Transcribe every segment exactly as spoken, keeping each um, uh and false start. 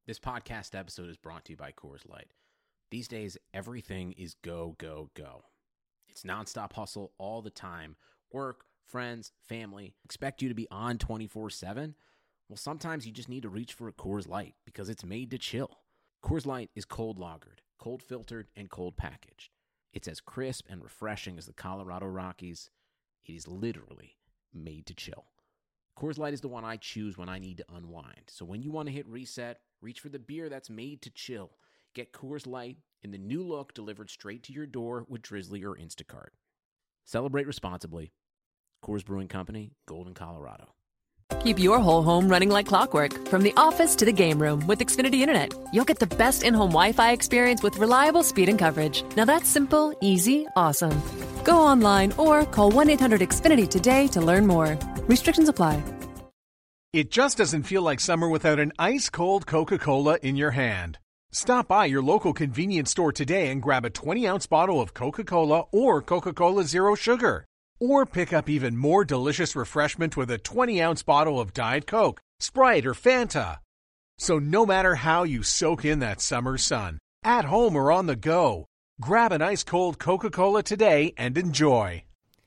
This podcast episode is brought to you by Coors Light. These days, everything is go, go, go. It's nonstop hustle all the time. Work, friends, family, expect you to be on twenty-four seven? Well, sometimes you just need to reach for a Coors Light because it's made to chill. Coors Light is cold lagered, cold filtered, and cold packaged. It's as crisp and refreshing as the Colorado Rockies. It is literally made to chill. Coors Light is the one I choose when I need to unwind. So when you want to hit reset, reach for the beer that's made to chill. Get Coors Light in the new look delivered straight to your door with Drizzly or Instacart. Celebrate responsibly. Coors Brewing Company, Golden, Colorado. Keep your whole home running like clockwork, from the office to the game room with Xfinity Internet. You'll get the best in-home Wi-Fi experience with reliable speed and coverage. Now that's simple, easy, awesome. Go online or call one eight hundred X Finity today to learn more. Restrictions apply. It just doesn't feel like summer without an ice-cold Coca-Cola in your hand. Stop by your local convenience store today and grab a twenty-ounce bottle of Coca-Cola or Coca-Cola Zero Sugar. Or pick up even more delicious refreshment with a twenty-ounce bottle of Diet Coke, Sprite, or Fanta. So no matter how you soak in that summer sun, at home or on the go, grab an ice-cold Coca-Cola today and enjoy.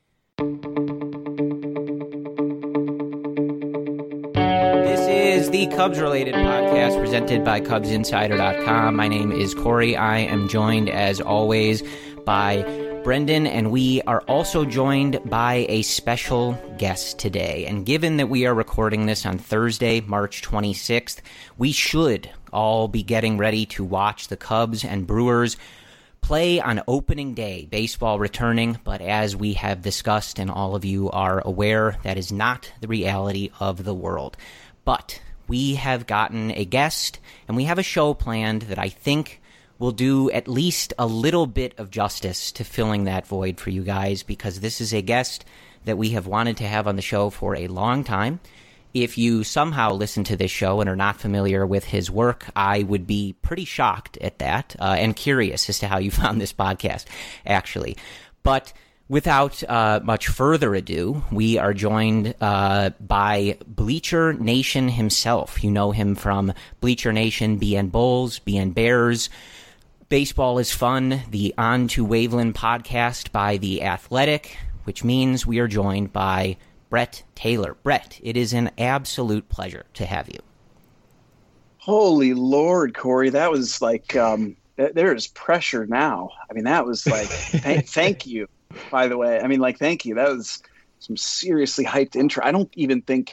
This is the Cubs-related podcast presented by Cubs Insider dot com. My name is Corey. I am joined, as always, by Brendan, and we are also joined by a special guest today. And given that we are recording this on Thursday, March twenty-sixth, we should all be getting ready to watch the Cubs and Brewers play on opening day, baseball returning. But as we have discussed, and all of you are aware, that is not the reality of the world. But we have gotten a guest, and we have a show planned that I think will do at least a little bit of justice to filling that void for you guys, because this is a guest that we have wanted to have on the show for a long time. If you somehow listen to this show and are not familiar with his work, I would be pretty shocked at that, uh, and curious as to how you found this podcast, actually. But without uh, much further ado, we are joined uh, by Bleacher Nation himself. You know him from Bleacher Nation, B N Bulls, B N Bears, Baseball is Fun, the On to Waveland podcast by The Athletic, which means we are joined by Brett Taylor. Brett, it is an absolute pleasure to have you. Holy Lord, Corey, that was like, um, th- there is pressure now. I mean, that was like, th- thank you, by the way. I mean, like, thank you. That was some seriously hyped intro. I don't even think,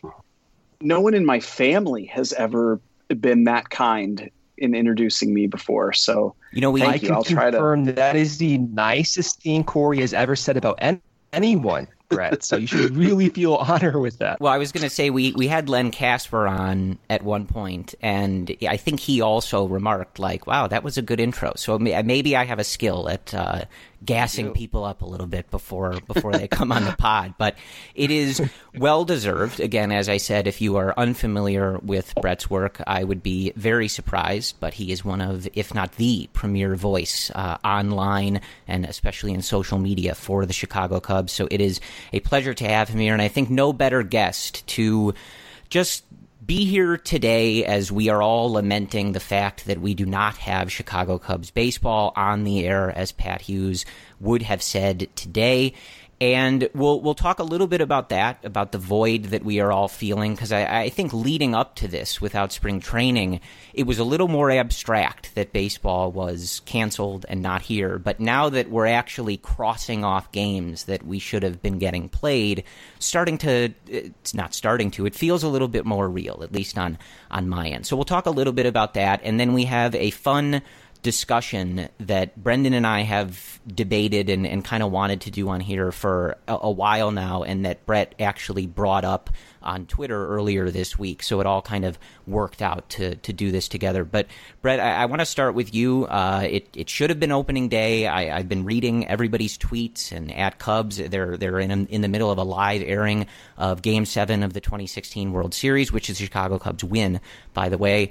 no one in my family has ever been that kind in introducing me before. So, you know, we I you. can I'll try confirm to... that is the nicest thing Corey has ever said about any- anyone, Brett. So you should really feel honor with that. Well, I was going to say we, we had Len Casper on at one point, and I think he also remarked, like, wow, that was a good intro. So maybe I have a skill at uh, gassing people up a little bit before before they come on the pod. But it is well-deserved. Again, as I said, if you are unfamiliar with Brett's work, I would be very surprised. But he is one of, if not the premier voice uh, online and especially in social media for the Chicago Cubs. So it is a pleasure to have him here, and I think no better guest to just be here today as we are all lamenting the fact that we do not have Chicago Cubs baseball on the air, as Pat Hughes would have said today. And we'll we'll talk a little bit about that, about the void that we are all feeling, because I, I think leading up to this, without spring training, it was a little more abstract that baseball was canceled and not here. But now that we're actually crossing off games that we should have been getting played, starting to, it's not starting to, it feels a little bit more real, at least on, on my end. So we'll talk a little bit about that, and then we have a fun discussion that Brendan and I have debated and, and kind of wanted to do on here for a, a while now, and that Brett actually brought up on Twitter earlier this week. So it all kind of worked out to to do this together. But Brett, I, I want to start with you. Uh, it it should have been opening day. I, I've been reading everybody's tweets, and at Cubs, they're they're in in the middle of a live airing of Game Seven of the twenty sixteen World Series, which is the Chicago Cubs win, by the way.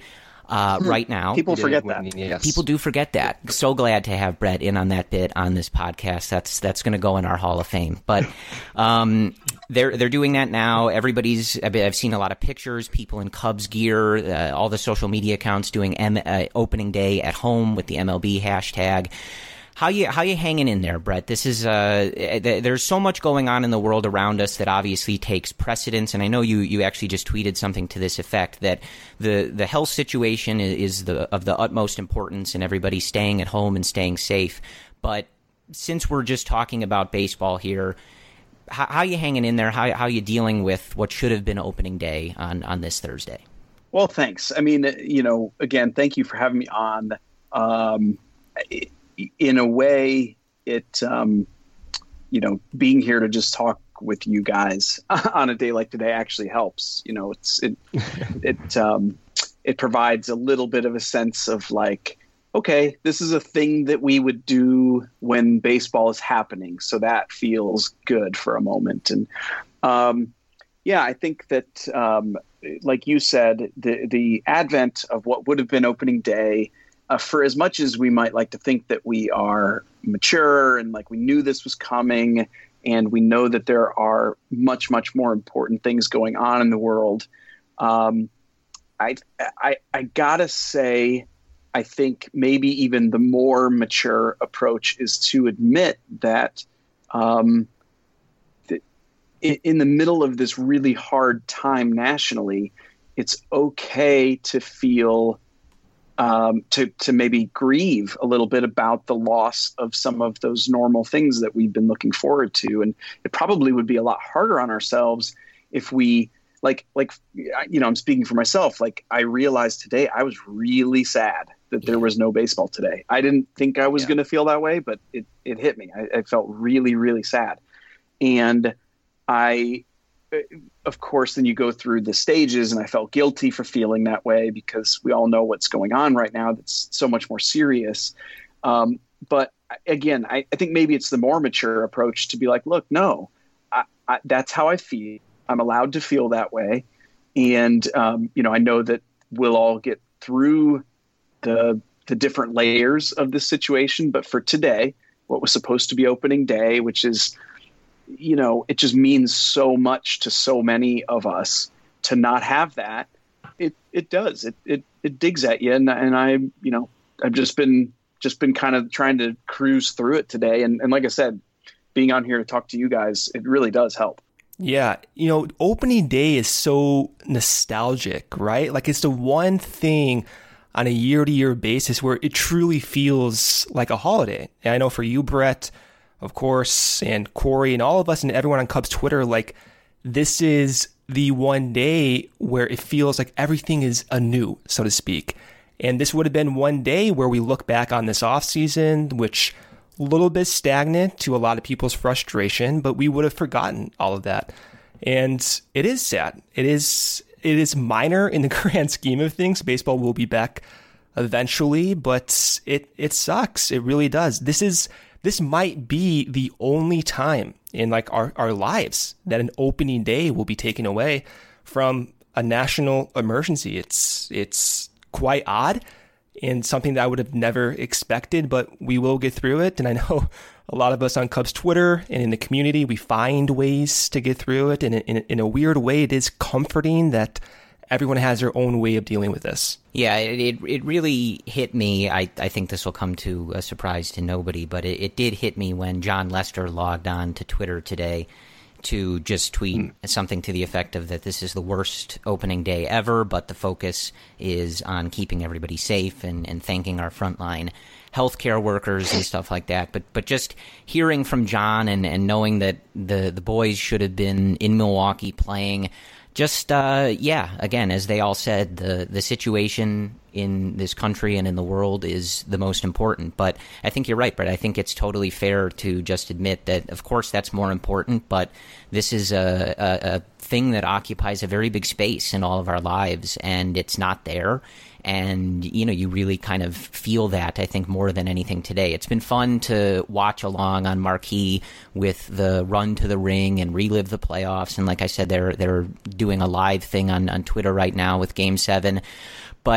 uh, right now. People forget that. Yes. People do forget that. So glad to have Brett in on that bit on this podcast. That's that's going to go in our Hall of Fame. But um, they're they're doing that now. Everybody's. I've seen a lot of pictures. People in Cubs gear. Uh, all the social media accounts doing M, uh, opening day at home with the M L B hashtag. How you how you hanging in there, Brett? This is uh, th- there's so much going on in the world around us that obviously takes precedence, and I know you, you actually just tweeted something to this effect that the the health situation is the of the utmost importance, and everybody staying at home and staying safe. But since we're just talking about baseball here, how, how you hanging in there? How how you dealing with what should have been opening day on on this Thursday? Well, thanks. I mean, you know, again, thank you for having me on. Um, it, In a way, it, um, you know, being here to just talk with you guys on a day like today actually helps. You know, it's it it um, it provides a little bit of a sense of like, okay, this is a thing that we would do when baseball is happening, so that feels good for a moment. And um, yeah, I think that, um, like you said, the the advent of what would have been opening day. Uh, for as much as we might like to think that we are mature and like we knew this was coming and we know that there are much, much more important things going on in the world, um, I, I, I gotta say, I think maybe even the more mature approach is to admit that um, th- in the middle of this really hard time nationally, it's okay to feel Um, to to maybe grieve a little bit about the loss of some of those normal things that we've been looking forward to. And it probably would be a lot harder on ourselves if we like, like, you know, I'm speaking for myself. Like I realized today I was really sad that there was no baseball today. I didn't think I was yeah. going to feel that way, but it, it hit me. I, I felt really, really sad. And I, of course, then you go through the stages, and I felt guilty for feeling that way because we all know what's going on right now. That's so much more serious. Um, but again, I, I think maybe it's the more mature approach to be like, look, no, I, I, that's how I feel. I'm allowed to feel that way. And, um, you know, I know that we'll all get through the, the different layers of this situation. But for today, what was supposed to be opening day, which is, you know, it just means so much to so many of us to not have that. It it does. It it it digs at you, and and I you know I've just been just been kind of trying to cruise through it today, and and like I said, being on here to talk to you guys, it really does help. Yeah, you know, opening day is so nostalgic, right? Like it's the one thing on a year-to-year basis where it truly feels like a holiday. And I know for you, Brett, of course, and Corey and all of us and everyone on Cubs Twitter, like this is the one day where it feels like everything is anew, so to speak. And this would have been one day where we look back on this offseason, which a little bit stagnant to a lot of people's frustration, but we would have forgotten all of that. And it is sad. It is it is minor in the grand scheme of things. Baseball will be back eventually, but it it sucks. It really does. This is This might be the only time in like our, our lives that an opening day will be taken away from a national emergency. It's it's quite odd and something that I would have never expected, but we will get through it. And I know a lot of us on Cubs Twitter and in the community, we find ways to get through it. And in, in, in a weird way, it is comforting that everyone has their own way of dealing with this. Yeah, it it, it really hit me. I, I think this will come to a surprise to nobody, but it, it did hit me when John Lester logged on to Twitter today to just tweet mm. something to the effect of that this is the worst opening day ever, but the focus is on keeping everybody safe and, and thanking our frontline healthcare workers and stuff like that. But but just hearing from John and, and knowing that the, the boys should have been in Milwaukee playing, just, uh, yeah, again, as they all said, the, the situation in this country and in the world is the most important. But I think you're right, Brett. I think it's totally fair to just admit that, of course, that's more important, but this is a, a, a thing that occupies a very big space in all of our lives, and it's not there. And, you know, you really kind of feel that, I think, more than anything today. It's been fun to watch along on Marquee with the run to the ring and relive the playoffs. And like I said, they're they're doing a live thing on, on Twitter right now with Game seven. But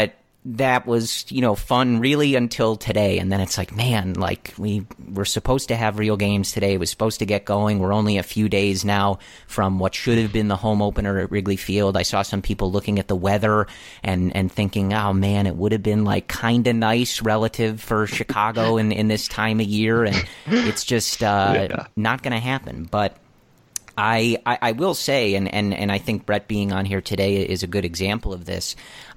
that was, you know, fun really until today. And then it's like, man, like we were supposed to have real games today. It was supposed to get going. We're only a few days now from what should have been the home opener at Wrigley Field. I saw some people looking at the weather and, and thinking, oh man, it would have been like kind of nice relative for Chicago in, in this time of year. And it's just uh, yeah. not going to happen. But I, I, I will say, and, and, and I think Brett being on here today is a good example of this.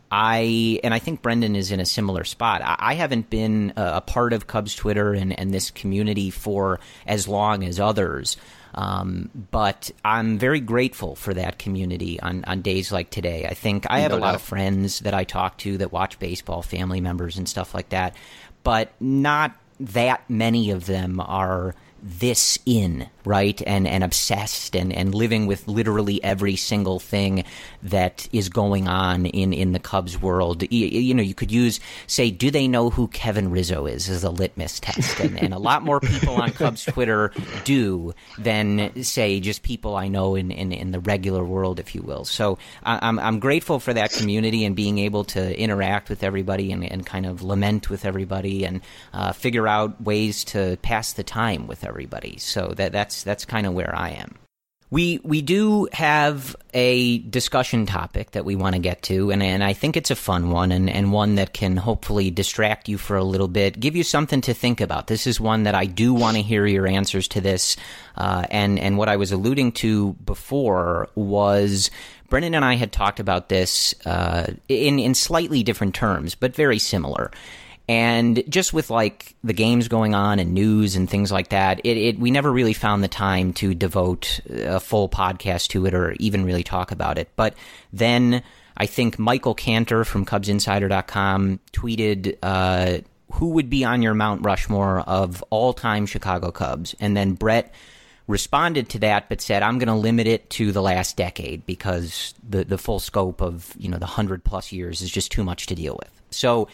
I and I think Brendan is in a similar spot. I, I haven't been a, a part of Cubs Twitter and, and this community for as long as others, um, but I'm very grateful for that community on, on days like today. I think I have no a lot doubt. of friends that I talk to that watch baseball, family members and stuff like that, but not that many of them are this in, right, and and obsessed and, and living with literally every single thing that is going on in, in the Cubs world. You, you know, you could use, say, do they know who Kevin Rizzo is as a litmus test? And, and a lot more people on Cubs Twitter do than, say, just people I know in, in, in the regular world, if you will. So I'm I'm grateful for that community and being able to interact with everybody and, and kind of lament with everybody and uh, figure out ways to pass the time with everybody. Everybody. So that that's that's kind of where I am. We we do have a discussion topic that we want to get to, and, and I think it's a fun one and, and one that can hopefully distract you for a little bit, give you something to think about. This is one that I do want to hear your answers to this, uh, and, and what I was alluding to before was Brendan and I had talked about this uh, in, in slightly different terms, but very similar. And just with like the games going on and news and things like that, it, it we never really found the time to devote a full podcast to it or even really talk about it. But then I think Michael Cantor from Cubs Insider dot com tweeted, uh, who would be on your Mount Rushmore of all-time Chicago Cubs? And then Brett responded to that but said, I'm going to limit it to the last decade because the, the full scope of, you know, the one hundred plus years is just too much to deal with. So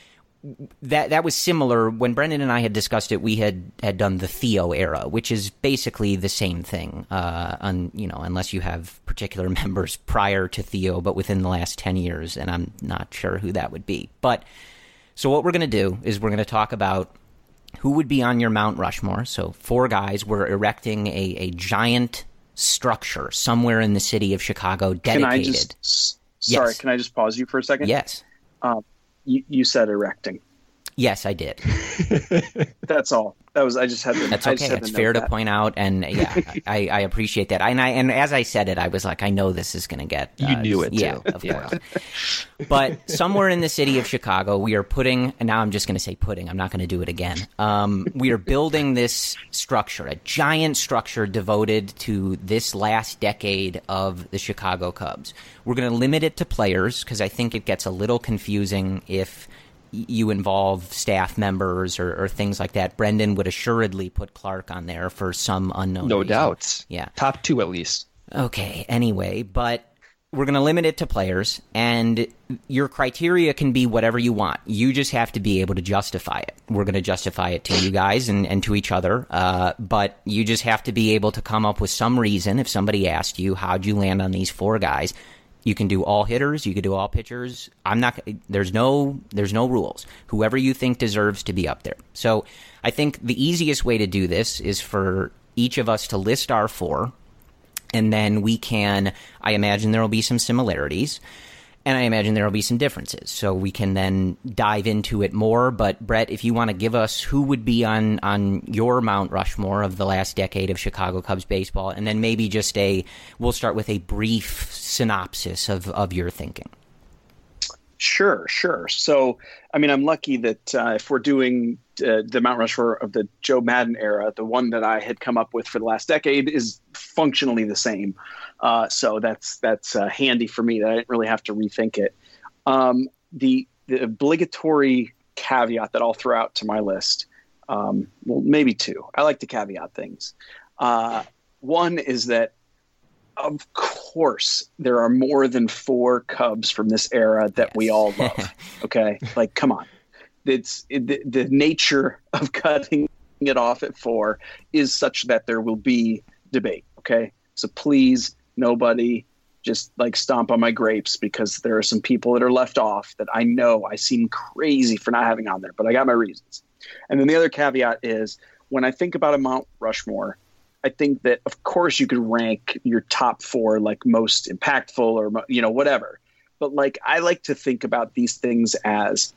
That that was similar when Brendan and I had discussed it. We had, had done the Theo era, which is basically the same thing. Uh, on you know, unless you have particular members prior to Theo, but within the last ten years, and I'm not sure who that would be. But so what we're going to do is we're going to talk about who would be on your Mount Rushmore. So four guys. We're erecting a, a giant structure somewhere in the city of Chicago dedicated. Can I just, sorry, yes. Can I just pause you for a second? Yes. Um, You, you said erecting. Yes, I did. That's all. That was. I just had to. That's okay. It's fair to that. point out, and yeah, I, I appreciate that. And I and as I said it, I was like, I know this is going to get. Uh, you knew it, yeah, too. Of yeah. course. But somewhere in the city of Chicago, we are putting. And now I'm just going to say putting. I'm not going to do it again. Um, we are building this structure, a giant structure devoted to this last decade of the Chicago Cubs. We're going to limit it to players because I think it gets a little confusing if you involve staff members or, or things like that. Brendan would assuredly put Clark on there for some unknown No reason. doubt. Yeah. Top two at least. Okay, anyway, but we're going to limit it to players, and your criteria can be whatever you want. You just have to be able to justify it. We're going to justify it to you guys and, and to each other, uh, but you just have to be able to come up with some reason. If somebody asked you, how'd you land on these four guys? You can do all hitters. You can do all pitchers. I'm not. There's no. There's no rules. Whoever you think deserves to be up there. So I think the easiest way to do this is for each of us to list our four, and then we can. I imagine there will be some similarities, and I imagine there will be some differences. So we can then dive into it more. But Brett, if you want to give us who would be on, on your Mount Rushmore of the last decade of Chicago Cubs baseball, and then maybe just a, we'll start with a brief synopsis of, of your thinking. Sure, sure. So, I mean, I'm lucky that uh, if we're doing uh, the Mount Rushmore of the Joe Maddon era, the one that I had come up with for the last decade is functionally the same. Uh, so that's that's uh, handy for me that I didn't really have to rethink it. Um, the, the obligatory caveat that I'll throw out to my list, um, well, maybe two. I like to caveat things. Uh, one is that, of course, there are more than four Cubs from this era that yes. we all love. Okay, like come on, it's it, the, the nature of cutting it off at four is such that there will be debate. Okay, so please, nobody just like stomp on my grapes because there are some people that are left off that I know I seem crazy for not having on there, but I got my reasons. And then the other caveat is when I think about a Mount Rushmore, I think that of course you could rank your top four like most impactful or, you know, whatever. But like, I like to think about these things as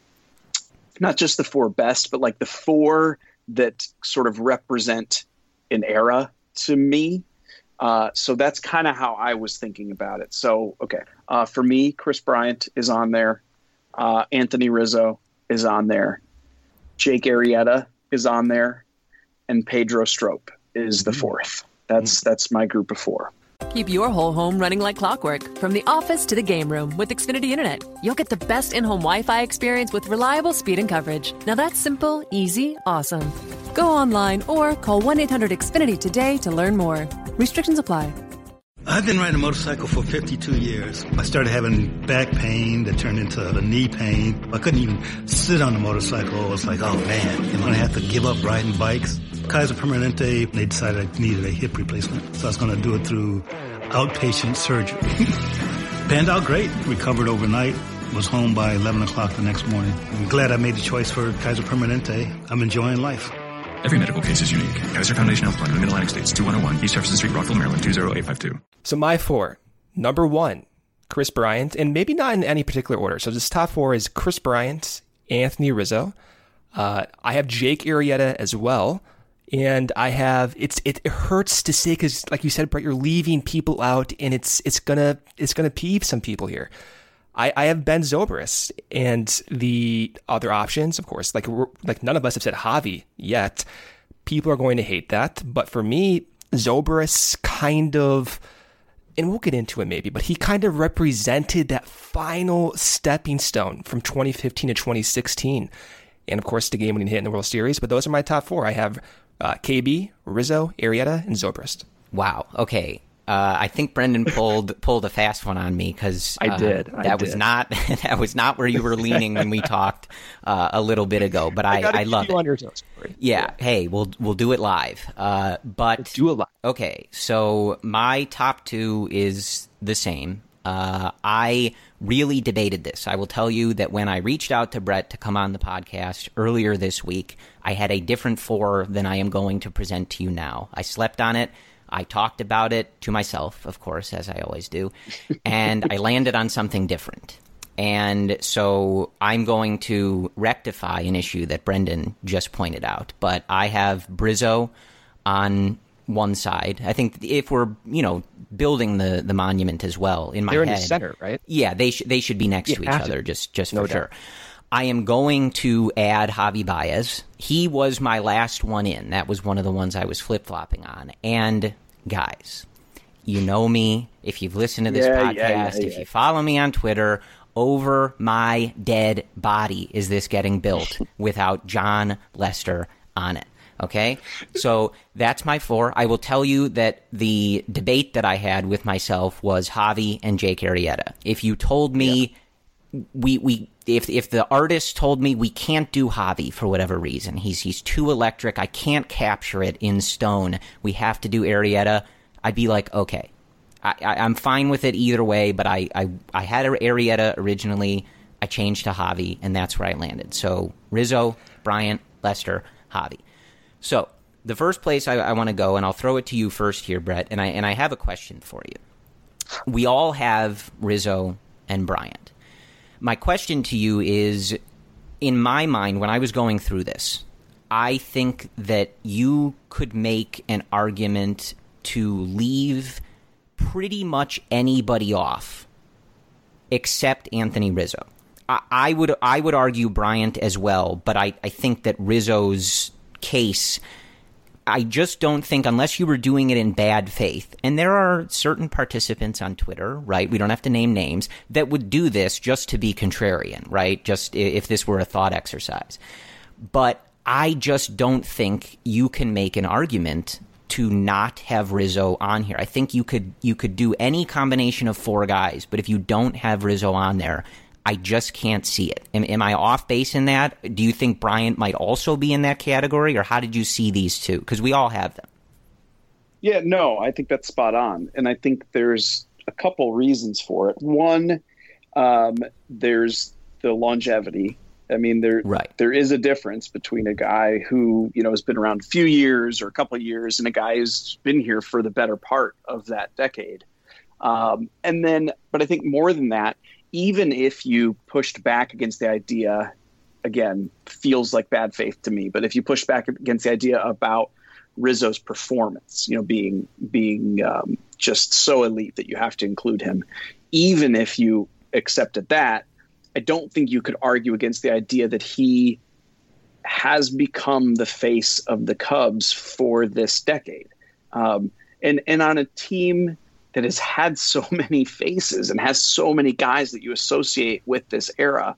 not just the four best, but like the four that sort of represent an era to me. Uh, so that's kind of how I was thinking about it. So, okay. Uh, for me, Kris Bryant is on there. Uh, Anthony Rizzo is on there. Jake Arrieta is on there. And Pedro Strop is the fourth. That's, that's my group of four. Keep your whole home running like clockwork, from the office to the game room with Xfinity Internet. You'll get the best in-home Wi-Fi experience with reliable speed and coverage. Now that's simple, easy, awesome. Go online or call one eight hundred X Finity today to learn more. Restrictions apply. I've been riding a motorcycle for fifty-two years. I started having back pain that turned into a knee pain. I couldn't even sit on the motorcycle. I was like, oh man, am I going to have to give up riding bikes? Kaiser Permanente, they decided I needed a hip replacement. So I was going to do it through outpatient surgery. Panned out great. Recovered overnight. Was home by eleven o'clock the next morning. I'm glad I made the choice for Kaiser Permanente. I'm enjoying life. Every medical case is unique. Kaiser Foundation Health Plan in the Mid-Atlantic States, two one oh one East Jefferson Street, Rockville, Maryland, two zero eight five two. So my four. Number one, Kris Bryant, and maybe not in any particular order. So this top four is Kris Bryant, Anthony Rizzo. Uh, I have Jake Arrieta as well. And I have, it's it, it hurts to say because, like you said, Brett, you're leaving people out, and it's it's gonna it's gonna peeve some people here. I, I have Ben Zobrist, and the other options, of course, like we're, like none of us have said Javi yet. People are going to hate that, but for me, Zobrist kind of, and we'll get into it maybe, but he kind of represented that final stepping stone from twenty fifteen to twenty sixteen, and of course the game-winning hit in the World Series. But those are my top four. I have uh, K B, Rizzo, Arrieta, and Zobrist. Wow. Okay. Uh, I think Brendan pulled pulled a fast one on me because uh, I did. I that did. was not that was not where you were leaning when we talked uh, a little bit ago. But I, I, I love it. On your toes, yeah, yeah. Hey, we'll we'll do it live. Uh, but Let's do it live. Okay. So my top two is the same. Uh, I really debated this. I will tell you that when I reached out to Brett to come on the podcast earlier this week, I had a different four than I am going to present to you now. I slept on it. I talked about it to myself, of course, as I always do, and I landed on something different. And so I'm going to rectify an issue that Brendan just pointed out. But I have Brizzo on one side. I think if we're, you know, building the, the monument as well, in my They're head. in the center, right? Yeah, they, sh- they should be next yeah, to each other, to. just, just no for doubt. sure. I am going to add Javi Baez. He was my last one in. That was one of the ones I was flip-flopping on. And, guys, you know me. If you've listened to this yeah, podcast, yeah, yeah, if yeah. you follow me on Twitter, over my dead body is this getting built without John Lester on it. Okay? So that's my four. I will tell you that the debate that I had with myself was Javi and Jake Arrieta. If you told me... Yeah. We we if if the artist told me we can't do Javi for whatever reason, he's he's too electric, I can't capture it in stone, we have to do Arrieta, I'd be like, okay, I, I, I'm fine with it either way. But I, I I had Arrieta originally, I changed to Javi, and that's where I landed. So Rizzo, Bryant, Lester, Javi. So the first place I, I want to go, and I'll throw it to you first here, Brett, and I and I have a question for you. We all have Rizzo and Bryant. My question to you is, in my mind, when I was going through this, I think that you could make an argument to leave pretty much anybody off except Anthony Rizzo. I, I would I would argue Bryant as well, but I, I think that Rizzo's case, I just don't think, unless you were doing it in bad faith, and there are certain participants on Twitter, right, we don't have to name names, that would do this just to be contrarian, right, just if this were a thought exercise. But I just don't think you can make an argument to not have Rizzo on here. I think you could you could do any combination of four guys, but if you don't have Rizzo on there, I just can't see it. Am, am I off base in that? Do you think Bryant might also be in that category, or how did you see these two? Because we all have them. Yeah, no, I think that's spot on. And I think there's a couple reasons for it. One, um, there's the longevity. I mean, there right. there is a difference between a guy who, you know, has been around a few years or a couple of years and a guy who's been here for the better part of that decade. Um, and then, but I think more than that, even if you pushed back against the idea, again, feels like bad faith to me, but if you push back against the idea about Rizzo's performance, you know, being being um, just so elite that you have to include him, even if you accepted that, I don't think you could argue against the idea that he has become the face of the Cubs for this decade. Um, and, and on a team that has had so many faces and has so many guys that you associate with this era,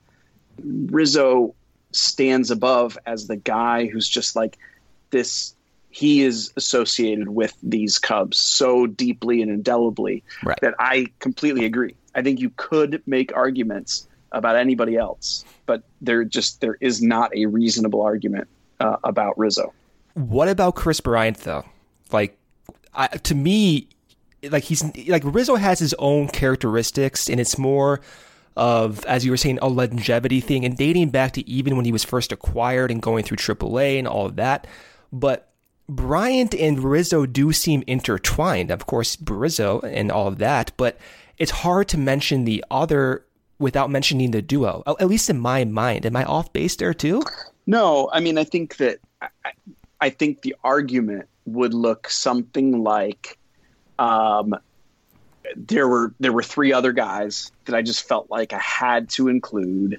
Rizzo stands above as the guy who's just like this. He is associated with these Cubs so deeply and indelibly right. that I completely agree. I think you could make arguments about anybody else, but there just there is not a reasonable argument uh, about Rizzo. What about Kris Bryant though? Like, I, to me, like he's like Rizzo has his own characteristics, and it's more of, as you were saying, a longevity thing, and dating back to even when he was first acquired and going through triple A and all of that. But Bryant and Rizzo do seem intertwined. Of course, Rizzo and all of that, but it's hard to mention the other without mentioning the duo, at least in my mind. Am I off base there too? No, I mean, I think that I, I think the argument would look something like um, there were there were three other guys that I just felt like I had to include,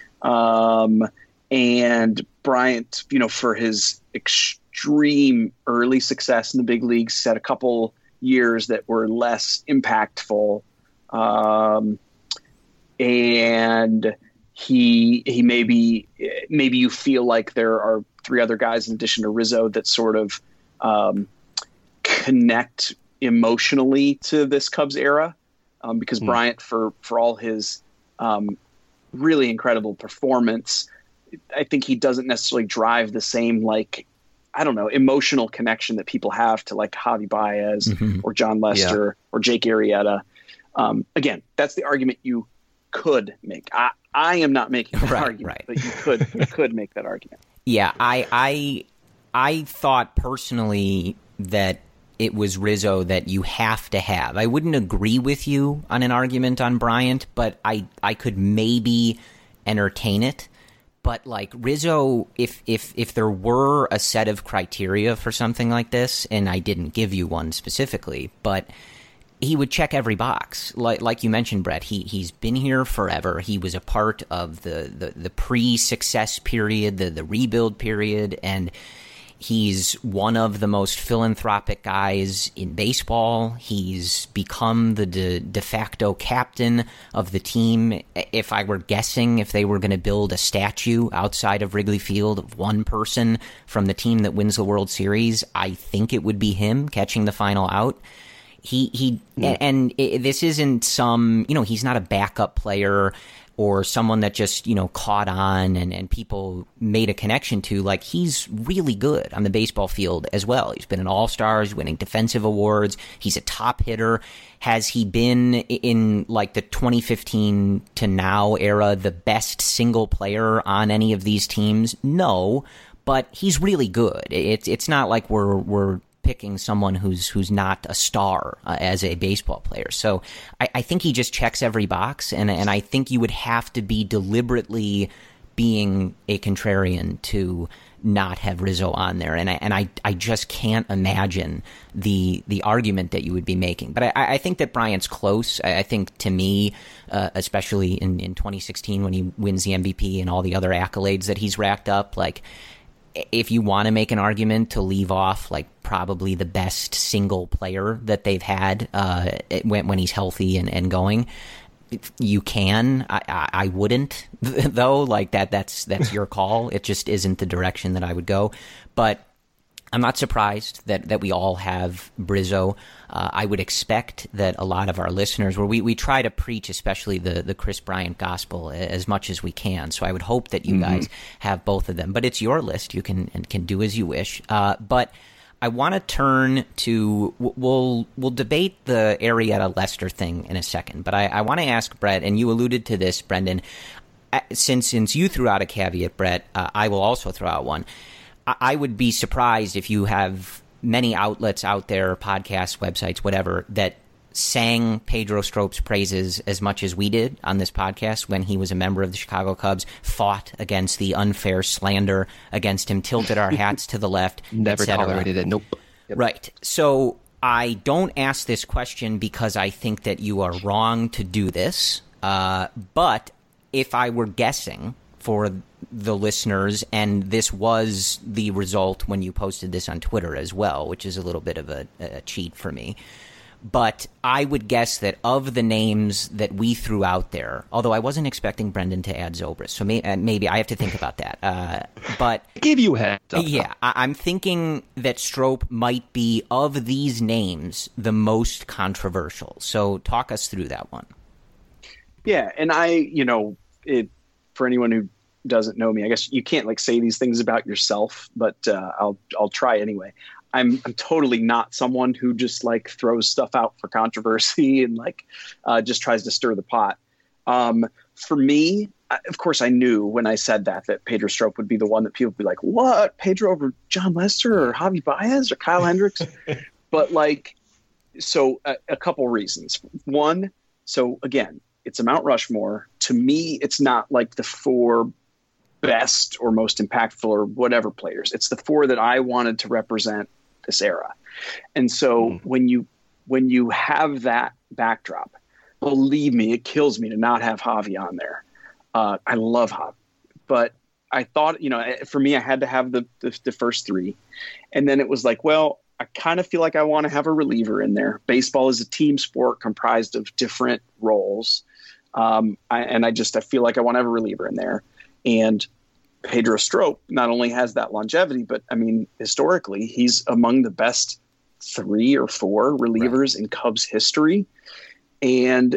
um, and Bryant, you know, for his extreme early success in the big leagues, had a couple years that were less impactful. Um, And he he maybe maybe you feel like there are three other guys in addition to Rizzo that sort of um, connect emotionally to this Cubs era, um, because mm. Bryant, for for all his um, really incredible performance, I think he doesn't necessarily drive the same, like, I don't know, emotional connection that people have to like Javi Baez mm-hmm. or John Lester yeah. or Jake Arrieta. Um, again, that's the argument you could make. I, I am not making that right, argument, right. but you could you could make that argument. Yeah, I I I thought personally that it was Rizzo that you have to have. I wouldn't agree with you on an argument on Bryant, but I I could maybe entertain it. But like Rizzo, if if if there were a set of criteria for something like this, and I didn't give you one specifically, but he would check every box. Like like you mentioned, Brett, he, he's been here forever. He was a part of the, the, the pre-success period, the, the rebuild period, and he's one of the most philanthropic guys in baseball. He's become the de, de facto captain of the team. If I were guessing if they were going to build a statue outside of Wrigley Field of one person from the team that wins the World Series, I think it would be him catching the final out. He he, mm. and it, this isn't some, you know, he's not a backup player or someone that just, you know, caught on and, and people made a connection to. Like, he's really good on the baseball field as well. He's been an all-star, he's winning defensive awards, he's a top hitter. Has he been, in like the twenty fifteen to now era, the best single player on any of these teams? No, but he's really good. It's it's not like we're we're picking someone who's who's not a star uh, as a baseball player. So I, I think he just checks every box, and and I think you would have to be deliberately being a contrarian to not have Rizzo on there. And I and I, I just can't imagine the the argument that you would be making. But I, I think that Bryant's close. I, I think to me, uh, especially in, in twenty sixteen when he wins the M V P and all the other accolades that he's racked up, like, if you want to make an argument to leave off, like, probably the best single player that they've had uh, when, when he's healthy and, and going, you can. I, I, I wouldn't, though. Like, that that's that's your call. It just isn't the direction that I would go. But I'm not surprised that, that we all have Rizzo. Uh, I would expect that a lot of our listeners, where we, we try to preach, especially the, the Kris Bryant gospel, as much as we can. So I would hope that you mm-hmm. guys have both of them. But it's your list. You can can do as you wish. Uh, but I want to turn to we'll we'll debate the Arrieta Lester thing in a second, but I, I want to ask Brett, and you alluded to this, Brendan. Since since you threw out a caveat, Brett, uh, I will also throw out one. I, I would be surprised if you have many outlets out there, podcasts, websites, whatever, that sang Pedro Strop's praises as much as we did on this podcast when he was a member of the Chicago Cubs, fought against the unfair slander against him, tilted our hats to the left, never tolerated it. Nope. Yep. Right. So I don't ask this question because I think that you are wrong to do this, uh, but if I were guessing for the listeners, and this was the result when you posted this on Twitter as well, which is a little bit of a, a cheat for me, but I would guess that of the names that we threw out there, although I wasn't expecting Brendan to add Zobrist, so may, uh, maybe I have to think about that. Uh, but I gave you a heads up. Yeah, I, I'm thinking that Strop might be, of these names, the most controversial. So talk us through that one. Yeah, and I, you know, it for anyone who doesn't know me, I guess you can't like say these things about yourself, but uh, I'll I'll try anyway. I'm I'm totally not someone who just like throws stuff out for controversy and like uh, just tries to stir the pot. Um, for me, I, of course, I knew when I said that that Pedro Strop would be the one that people would be like, "What, Pedro over John Lester or Javi Baez or Kyle Hendricks?" But like, so a, a couple reasons. One, so again, it's a Mount Rushmore. To me, it's not like the four best or most impactful or whatever players. It's the four that I wanted to represent this era. And so mm. when you when you have that backdrop, believe me, it kills me to not have Javi on there. Uh, I love Javi, but I thought, you know, for me, I had to have the, the the first three, and then it was like, well, I kind of feel like I want to have a reliever in there. Baseball is a team sport comprised of different roles, um, I, and I just I feel like I want to have a reliever in there. And Pedro Strop not only has that longevity, but I mean, historically, he's among the best three or four relievers right. in Cubs history. And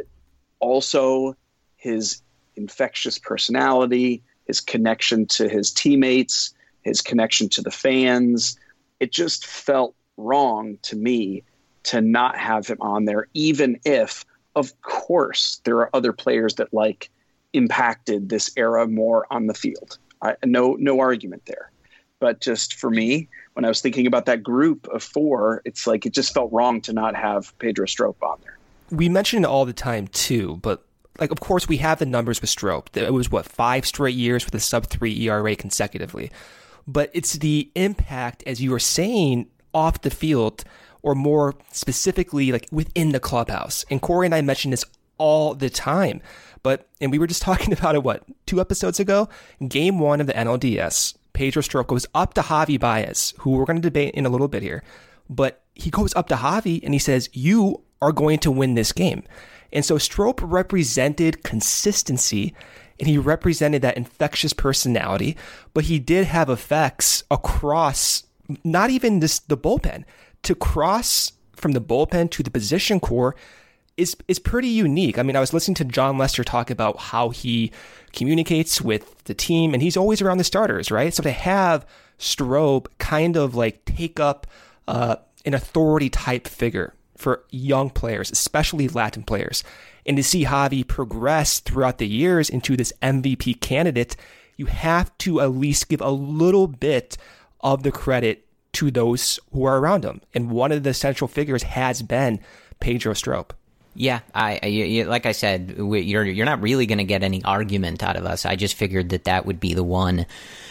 also his infectious personality, his connection to his teammates, his connection to the fans. It just felt wrong to me to not have him on there, even if, of course, there are other players that like impacted this era more on the field. I, no, no argument there. But just for me, when I was thinking about that group of four, it's like it just felt wrong to not have Pedro Strop on there. We mention it all the time too, but like, of course, we have the numbers with Strop. It was what, five straight years with a sub three E R A consecutively. But it's the impact, as you were saying, off the field, or more specifically, like within the clubhouse. And Corey and I mention this all the time. But, and we were just talking about it, what, two episodes ago? Game one of the N L D S, Pedro Strop goes up to Javi Baez, who we're going to debate in a little bit here. But he goes up to Javi and he says, "You are going to win this game." And so Strop represented consistency, and he represented that infectious personality, but he did have effects across, not even this, the bullpen. To cross from the bullpen to the position core is is pretty unique. I mean, I was listening to John Lester talk about how he communicates with the team, and he's always around the starters, right? So to have Strop kind of like take up uh, an authority type figure for young players, especially Latin players, and to see Javi progress throughout the years into this M V P candidate, you have to at least give a little bit of the credit to those who are around him. And one of the central figures has been Pedro Strop. Yeah, I, I you, like I said, we, you're you're not really going to get any argument out of us. I just figured that that would be the one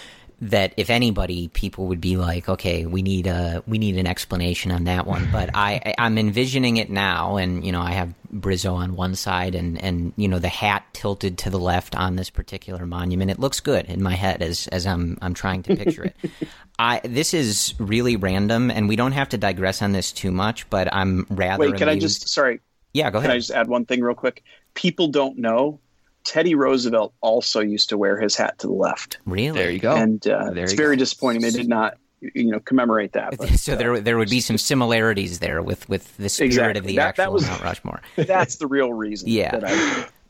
that, if anybody, people would be like, okay, we need a we need an explanation on that one. But I I'm envisioning it now, and you know, I have Brizzo on one side, and and you know, the hat tilted to the left on this particular monument. It looks good in my head as as I'm I'm trying to picture it. I this is really random, and we don't have to digress on this too much. But I'm rather wait. Can amused. I just sorry. Yeah, go ahead. Can I just add one thing real quick? People don't know Teddy Roosevelt also used to wear his hat to the left. Really? There you go. And uh, there it's you very go. disappointing they did not, you know, commemorate that. But, so there, there would be some similarities there with, with the spirit exactly. of the that, actual that was, Mount Rushmore. That's the real reason. Yeah. That I,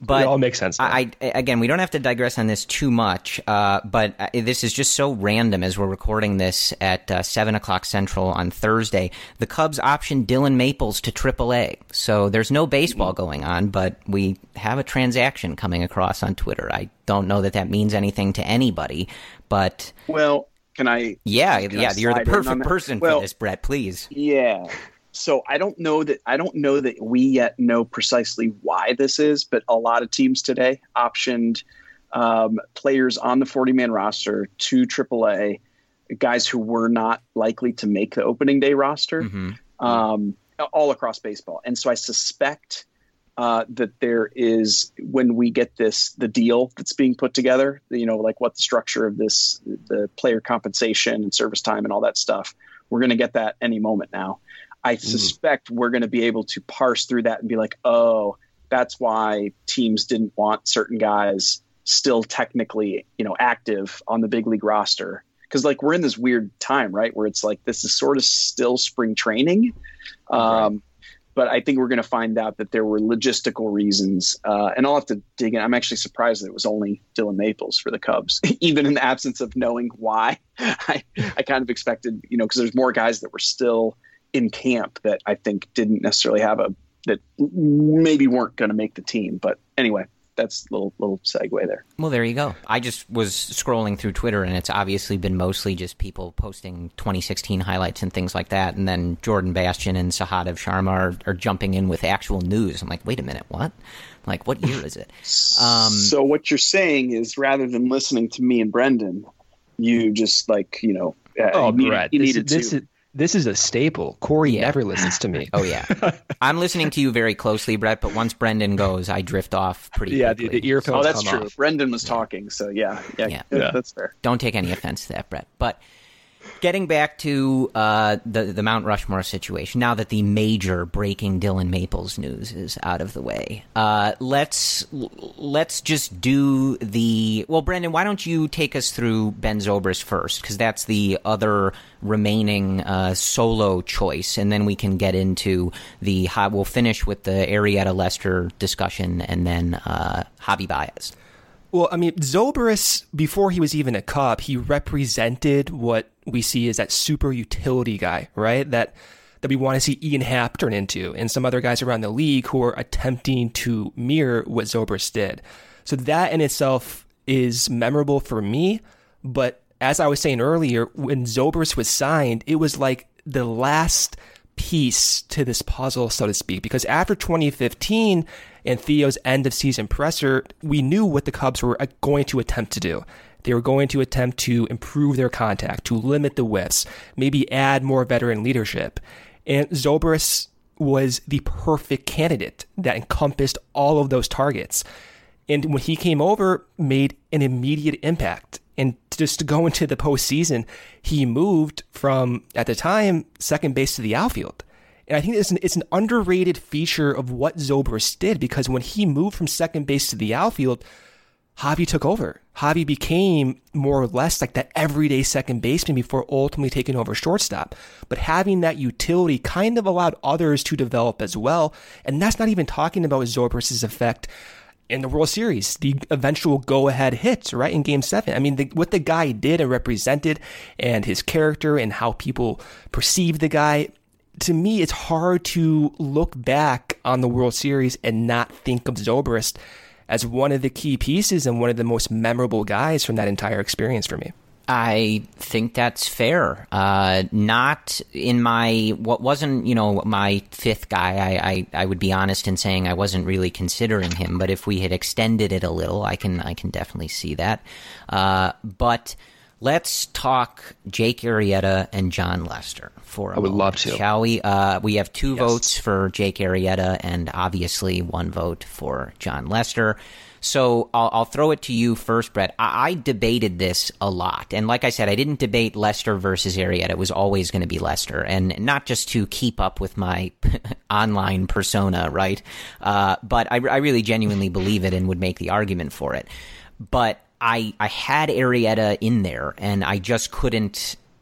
But it all makes sense. I, I again, we don't have to digress on this too much, uh, but this is just so random as we're recording this at uh, seven o'clock Central on Thursday. The Cubs optioned Dylan Maples to triple A. So there's no baseball going on, but we have a transaction coming across on Twitter. I don't know that that means anything to anybody, but... Well, can I... Yeah, can yeah, I you're the perfect person well, for this, Brett, please. Yeah. So I don't know that I don't know that we yet know precisely why this is, but a lot of teams today optioned um, players on the forty-man roster to triple A, guys who were not likely to make the opening day roster, mm-hmm. um, all across baseball. And so I suspect uh, that there is, when we get this, the deal that's being put together, you know, like what the structure of this, the player compensation and service time and all that stuff, we're going to get that any moment now. I suspect mm. we're going to be able to parse through that and be like, oh, that's why teams didn't want certain guys still technically, you know, active on the big league roster. Because like we're in this weird time, right, where it's like this is sort of still spring training. Um, right. But I think we're going to find out that there were logistical reasons. Uh, and I'll have to dig in. I'm actually surprised that it was only Dylan Maples for the Cubs, even in the absence of knowing why. I, I kind of expected, you know, because there's more guys that were still in camp that I think didn't necessarily have a, that maybe weren't going to make the team. But anyway, that's a little, little segue there. Well, there you go. I just was scrolling through Twitter and it's obviously been mostly just people posting twenty sixteen highlights and things like that. And then Jordan Bastian and Sahadev Sharma are, are jumping in with actual news. I'm like, wait a minute, what? Like, what year is it? Um, so what you're saying is rather than listening to me and Brendan, you just like, you know, uh, oh, you, Brett, you this, needed this to. Is, This is a staple. Corey yeah. never listens to me. Oh, yeah. I'm listening to you very closely, Brett, but once Brendan goes, I drift off pretty yeah, quickly. Yeah, the, the earphones Oh, that's come true. off. Brendan was talking, so yeah, yeah, yeah. yeah, that's fair. Don't take any offense to that, Brett. But getting back to uh, the, the Mount Rushmore situation, now that the major breaking Dylan Maples news is out of the way, uh, let's let's just do the... Well, Brendan, why don't you take us through Ben Zobrist first, because that's the other remaining uh, solo choice, and then we can get into the... We'll finish with the Arrieta-Lester discussion, and then uh, Javi Baez. Well, I mean, Zobrist, before he was even a Cub, he represented what we see as that super utility guy, right? That that we want to see Ian Happ turn into, and some other guys around the league who are attempting to mirror what Zobrist did. So that in itself is memorable for me. But as I was saying earlier, when Zobrist was signed, it was like the last piece to this puzzle, so to speak, because after twenty fifteen and Theo's end of season presser, we knew what the Cubs were going to attempt to do. They were going to attempt to improve their contact, to limit the whiffs, maybe add more veteran leadership. And Zobrist was the perfect candidate that encompassed all of those targets. And when he came over, made an immediate impact. And just to go into the postseason, he moved from, at the time, second base to the outfield. And I think it's an, it's an underrated feature of what Zobrist did, because when he moved from second base to the outfield, Javi took over. Javi became more or less like that everyday second baseman before ultimately taking over shortstop. But having that utility kind of allowed others to develop as well. And that's not even talking about Zobrist's effect in the World Series, the eventual go-ahead hits, right, in Game seven. I mean, the, what the guy did and represented, and his character and how people perceive the guy, to me, it's hard to look back on the World Series and not think of Zobrist as one of the key pieces and one of the most memorable guys from that entire experience for me. I think that's fair. Uh, not in my, what wasn't, you know, my fifth guy. I, I, I would be honest in saying I wasn't really considering him, but if we had extended it a little, I can, I can definitely see that. Uh, but let's talk Jake Arrieta and Jon Lester for a I would moment, love to. Shall we? Uh, we have two yes. votes for Jake Arrieta and obviously one vote for Jon Lester. So I'll, I'll throw it to you first, Brett. I, I debated this a lot. And like I said, I didn't debate Lester versus Arrieta. It was always going to be Lester. And not just to keep up with my online persona, right? Uh, but I, I really genuinely believe it and would make the argument for it. But I, I had Arrieta in there, and I just couldn't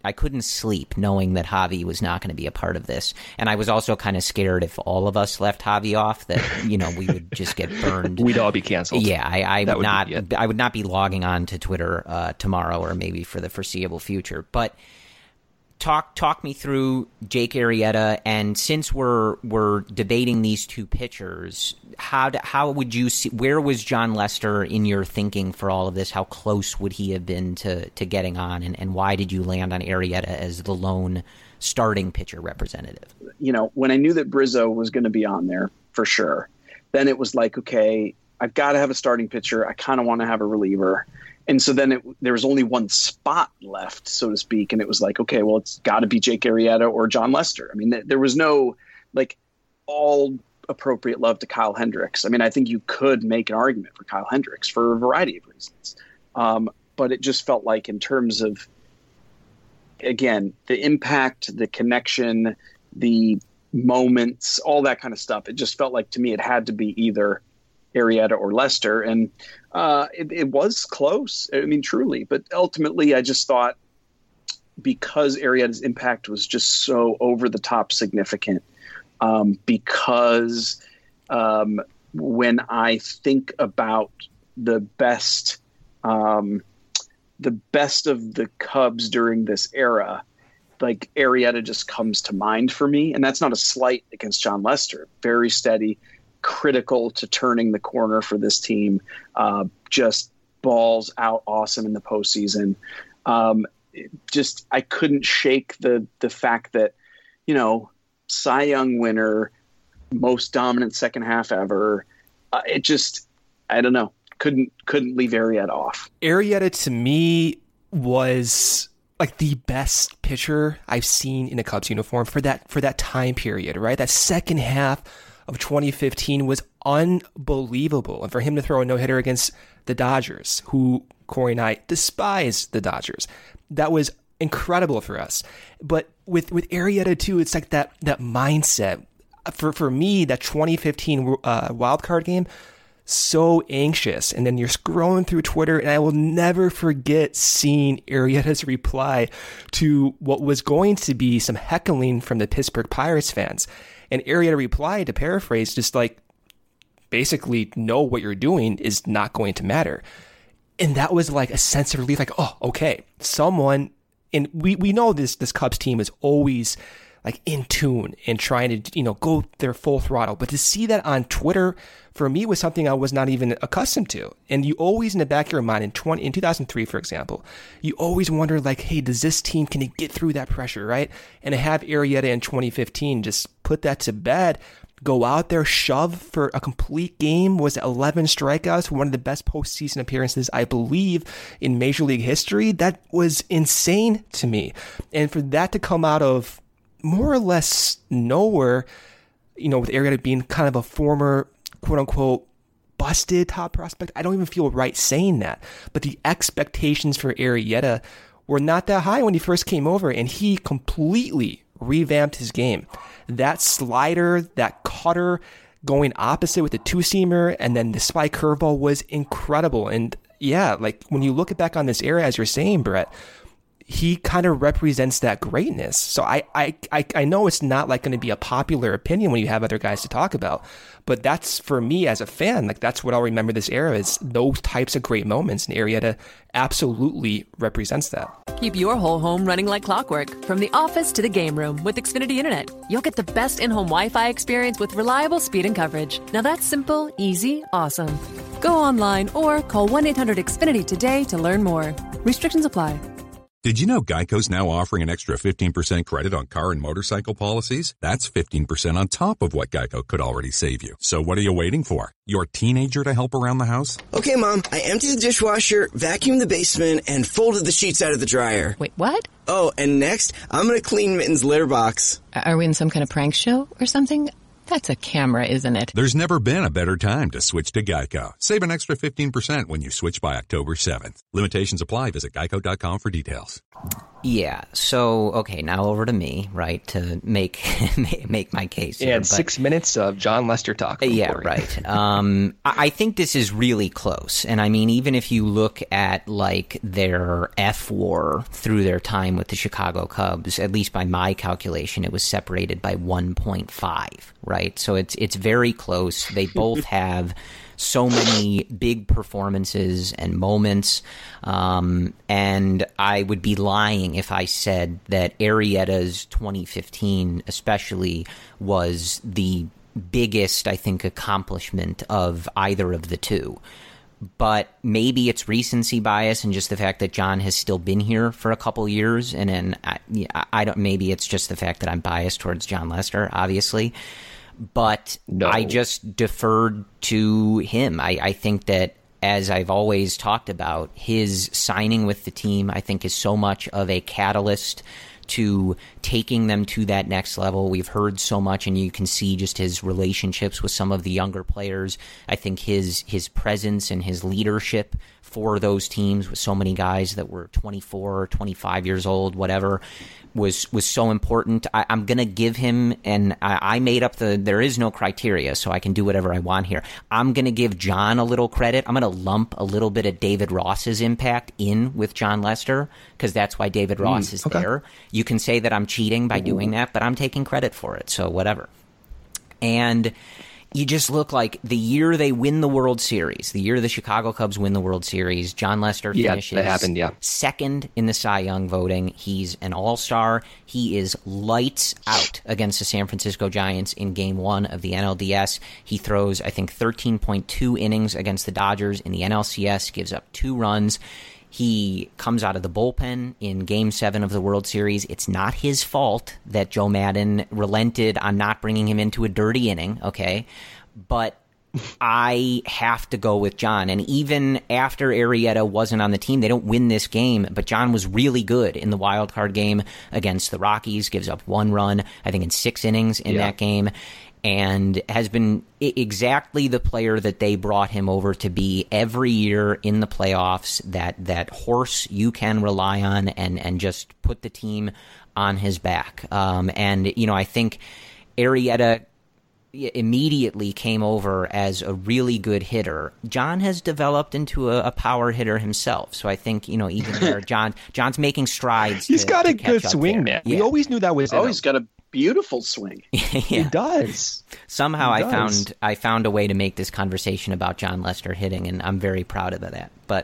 I couldn't sleep knowing that Javi was not going to be a part of this. And I was also kind of scared if all of us left Javi off that, you know, we would just get burned. We'd all be canceled. Yeah, I, I would, would not be, I would not be logging on to Twitter uh, tomorrow or maybe for the foreseeable future. But talk talk me through Jake Arrieta, and since we're we're debating these two pitchers, how do, how would you see, where was Jon Lester in your thinking for all of this? How close would he have been to, to getting on, and, and why did you land on Arrieta as the lone starting pitcher representative? You know, when I knew that Brizzo was going to be on there for sure, then it was like, okay, I've got to have a starting pitcher. I kind of want to have a reliever. And so then it, there was only one spot left, so to speak. And it was like, okay, well, it's got to be Jake Arrieta or Jon Lester. I mean, th- there was no like all appropriate love to Kyle Hendricks. I mean, I think you could make an argument for Kyle Hendricks for a variety of reasons. Um, but it just felt like in terms of, again, the impact, the connection, the moments, all that kind of stuff, it just felt like to me it had to be either Arrieta or Lester. And uh, it, it was close. I mean, truly. But ultimately, I just thought because Arrieta's impact was just so over the top significant, um, because um, when I think about the best, um, the best of the Cubs during this era, like Arrieta just comes to mind for me. And that's not a slight against Jon Lester. Very steady, critical to turning the corner for this team, uh, just balls out awesome in the postseason. Um, just, I couldn't shake the, the fact that, you know, Cy Young winner, most dominant second half ever. Uh, it just, I don't know. Couldn't, couldn't leave Arrieta off. Arrieta to me was like the best pitcher I've seen in a Cubs uniform for that, for that time period, right? That second half of twenty fifteen was unbelievable. And for him to throw a no-hitter against the Dodgers, who Corey and I despise the Dodgers, that was incredible for us. But with, with Arrieta too, it's like that, that mindset. For, for me, that twenty fifteen uh, wildcard game, so anxious. And then you're scrolling through Twitter, and I will never forget seeing Arrieta's reply to what was going to be some heckling from the Pittsburgh Pirates fans. And Arrieta replied, to paraphrase, just like, basically, know what you're doing is not going to matter. And that was like a sense of relief, like, oh, okay, someone, and we, we know this this Cubs team is always like in tune and trying to, you know, go their full throttle. But to see that on Twitter, for me, was something I was not even accustomed to. And you always, in the back of your mind, in twenty in two thousand three, for example, you always wonder, like, hey, does this team, can it get through that pressure, right? And to have Arrieta in twenty fifteen just put that to bed, go out there, shove for a complete game, was eleven strikeouts, one of the best postseason appearances, I believe, in Major League history. That was insane to me. And for that to come out of more or less nowhere, you know, with Arrieta being kind of a former, quote unquote, busted top prospect, I don't even feel right saying that. But the expectations for Arrieta were not that high when he first came over, and he completely revamped his game. That slider, that cutter going opposite with the two-seamer, and then the spike curveball was incredible. And yeah, like when you look back on this era, as you're saying, Brett, he kind of represents that greatness. So I, I, I, I know it's not like going to be a popular opinion when you have other guys to talk about, but that's, for me as a fan, like that's what I'll remember this era, is those types of great moments, and Arrieta absolutely represents that. Keep your whole home running like clockwork, from the office to the game room with Xfinity Internet. You'll get the best in-home Wi-Fi experience with reliable speed and coverage. Now that's simple, easy, awesome. Go online or call one eight hundred X Finity today to learn more. Restrictions apply. Did you know Geico's now offering an extra fifteen percent credit on car and motorcycle policies? That's fifteen percent on top of what Geico could already save you. So what are you waiting for? Your teenager to help around the house? Okay, Mom, I emptied the dishwasher, vacuumed the basement, and folded the sheets out of the dryer. Wait, what? Oh, and next, I'm going to clean Mitten's litter box. Are we in some kind of prank show or something? That's a camera, isn't it? There's never been a better time to switch to Geico. Save an extra fifteen percent when you switch by October seventh. Limitations apply. Visit geico dot com for details. Yeah. So, okay, now over to me, right, to make make my case. Yeah, here, and six minutes of Jon Lester talk. Yeah, right. um, I think this is really close. And I mean, even if you look at like their F WAR through their time with the Chicago Cubs, at least by my calculation, it was separated by one point five, right? So it's it's very close. They both have so many big performances and moments, um, and I would be lying if I said that Arrieta's twenty fifteen especially was the biggest, I think, accomplishment of either of the two. But maybe it's recency bias and just the fact that John has still been here for a couple years, and then I, I don't. Maybe it's just the fact that I'm biased towards Jon Lester, obviously. But no. I just deferred to him. I, I think that, as I've always talked about, his signing with the team, I think, is so much of a catalyst to taking them to that next level. We've heard so much, and you can see just his relationships with some of the younger players. I think his his presence and his leadership for those teams with so many guys that were twenty-four, twenty-five years old, whatever, was was so important. I, I'm going to give him, and I, I made up the, there is no criteria, so I can do whatever I want here. I'm going to give John a little credit. I'm going to lump a little bit of David Ross's impact in with Jon Lester, because that's why David Ross mm, is okay. there. You can say that I'm cheating by doing that, but I'm taking credit for it, so whatever. And you just look like the year they win the World Series, the year the Chicago Cubs win the World Series, Jon Lester yeah, finishes that happened, yeah. second in the Cy Young voting. He's an all-star. He is lights out against the San Francisco Giants in Game one of the N L D S. He throws, I think, thirteen point two innings against the Dodgers in the N L C S, gives up two runs. He comes out of the bullpen in Game seven of the World Series. It's not his fault that Joe Maddon relented on not bringing him into a dirty inning, okay? But I have to go with John. And even after Arrieta wasn't on the team, they don't win this game, but John was really good in the wild card game against the Rockies, gives up one run, I think, in six innings in yeah. that game, and has been exactly the player that they brought him over to be every year in the playoffs, that that horse you can rely on and, and just put the team on his back. Um, and, you know, I think Arrieta immediately came over as a really good hitter. John has developed into a, a power hitter himself. So I think, you know, even there, John John's making strides. He's to, got to a good swing, there. man. Yeah. We always knew that was Oh, he's got a beautiful swing. yeah. He does. Somehow he I does. found I found a way to make this conversation about Jon Lester hitting, and I'm very proud of that. But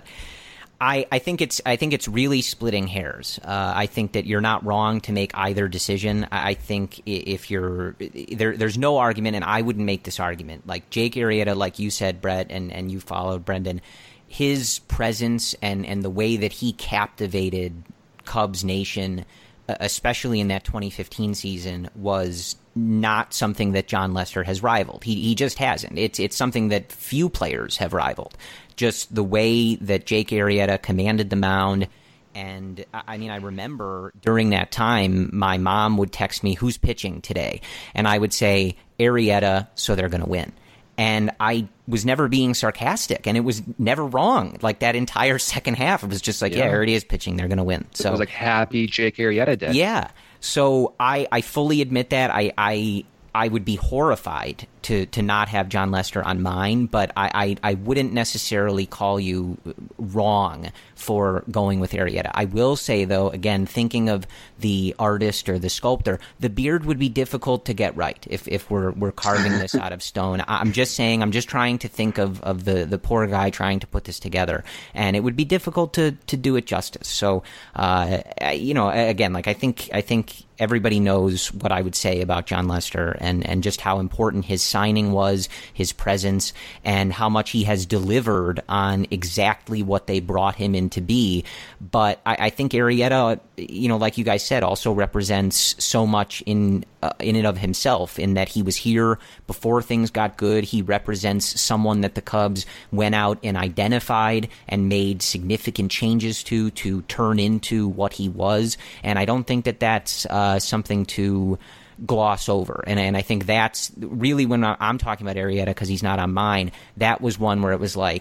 I, I think it's I think it's really splitting hairs. Uh, I think that you're not wrong to make either decision. I, I think if you're there, there's no argument, and I wouldn't make this argument. Like Jake Arrieta, like you said, Brett, and, and you followed Brendan, his presence and, and the way that he captivated Cubs Nation, especially in that twenty fifteen season, was not something that Jon Lester has rivaled. He he just hasn't. It's it's something that few players have rivaled. Just the way that Jake Arrieta commanded the mound. And I mean, I remember during that time, my mom would text me, "Who's pitching today?" And I would say, "Arrieta, so they're going to win." And I was never being sarcastic, and it was never wrong. Like that entire second half, it was just like, yeah, yeah Arrieta's pitching, they're going to win. So it was like happy Jake Arrieta did. Yeah. So I, I fully admit that. I, I I would be horrified to, to not have Jon Lester on mine, but I, I, I wouldn't necessarily call you wrong for going with Arrieta. I will say, though, again, thinking of the artist or the sculptor, the beard would be difficult to get right if, if we're we're carving this out of stone. I'm just saying, I'm just trying to think of, of the, the poor guy trying to put this together, and it would be difficult to, to do it justice. So, uh, you know, again, like I think I think everybody knows what I would say about Jon Lester and, and just how important his signing was, his presence, and how much he has delivered on exactly what they brought him in to be. But I, I think Arrieta, you know, like you guys said, also represents so much in uh, in and of himself, in that he was here before things got good. He represents someone that the Cubs went out and identified and made significant changes to to turn into what he was. And I don't think that that's uh, something to gloss over. And and I think that's really when I'm talking about Arrieta, because he's not on mine, that was one where it was like,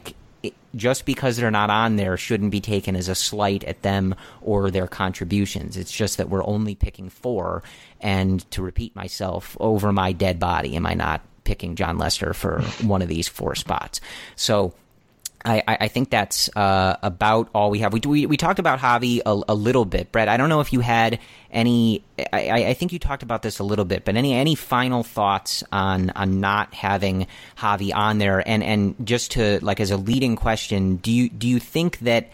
it, just because they're not on there shouldn't be taken as a slight at them or their contributions. It's just that we're only picking four. And to repeat myself, over my dead body, am I not picking Jon Lester for one of these four spots? So I, I think that's uh, about all we have. We, we we talked about Javi a, a little bit. Brett, I don't know if you had any I, – I think you talked about this a little bit, but any any final thoughts on on not having Javi on there? And, and just to – like as a leading question, do you do you think that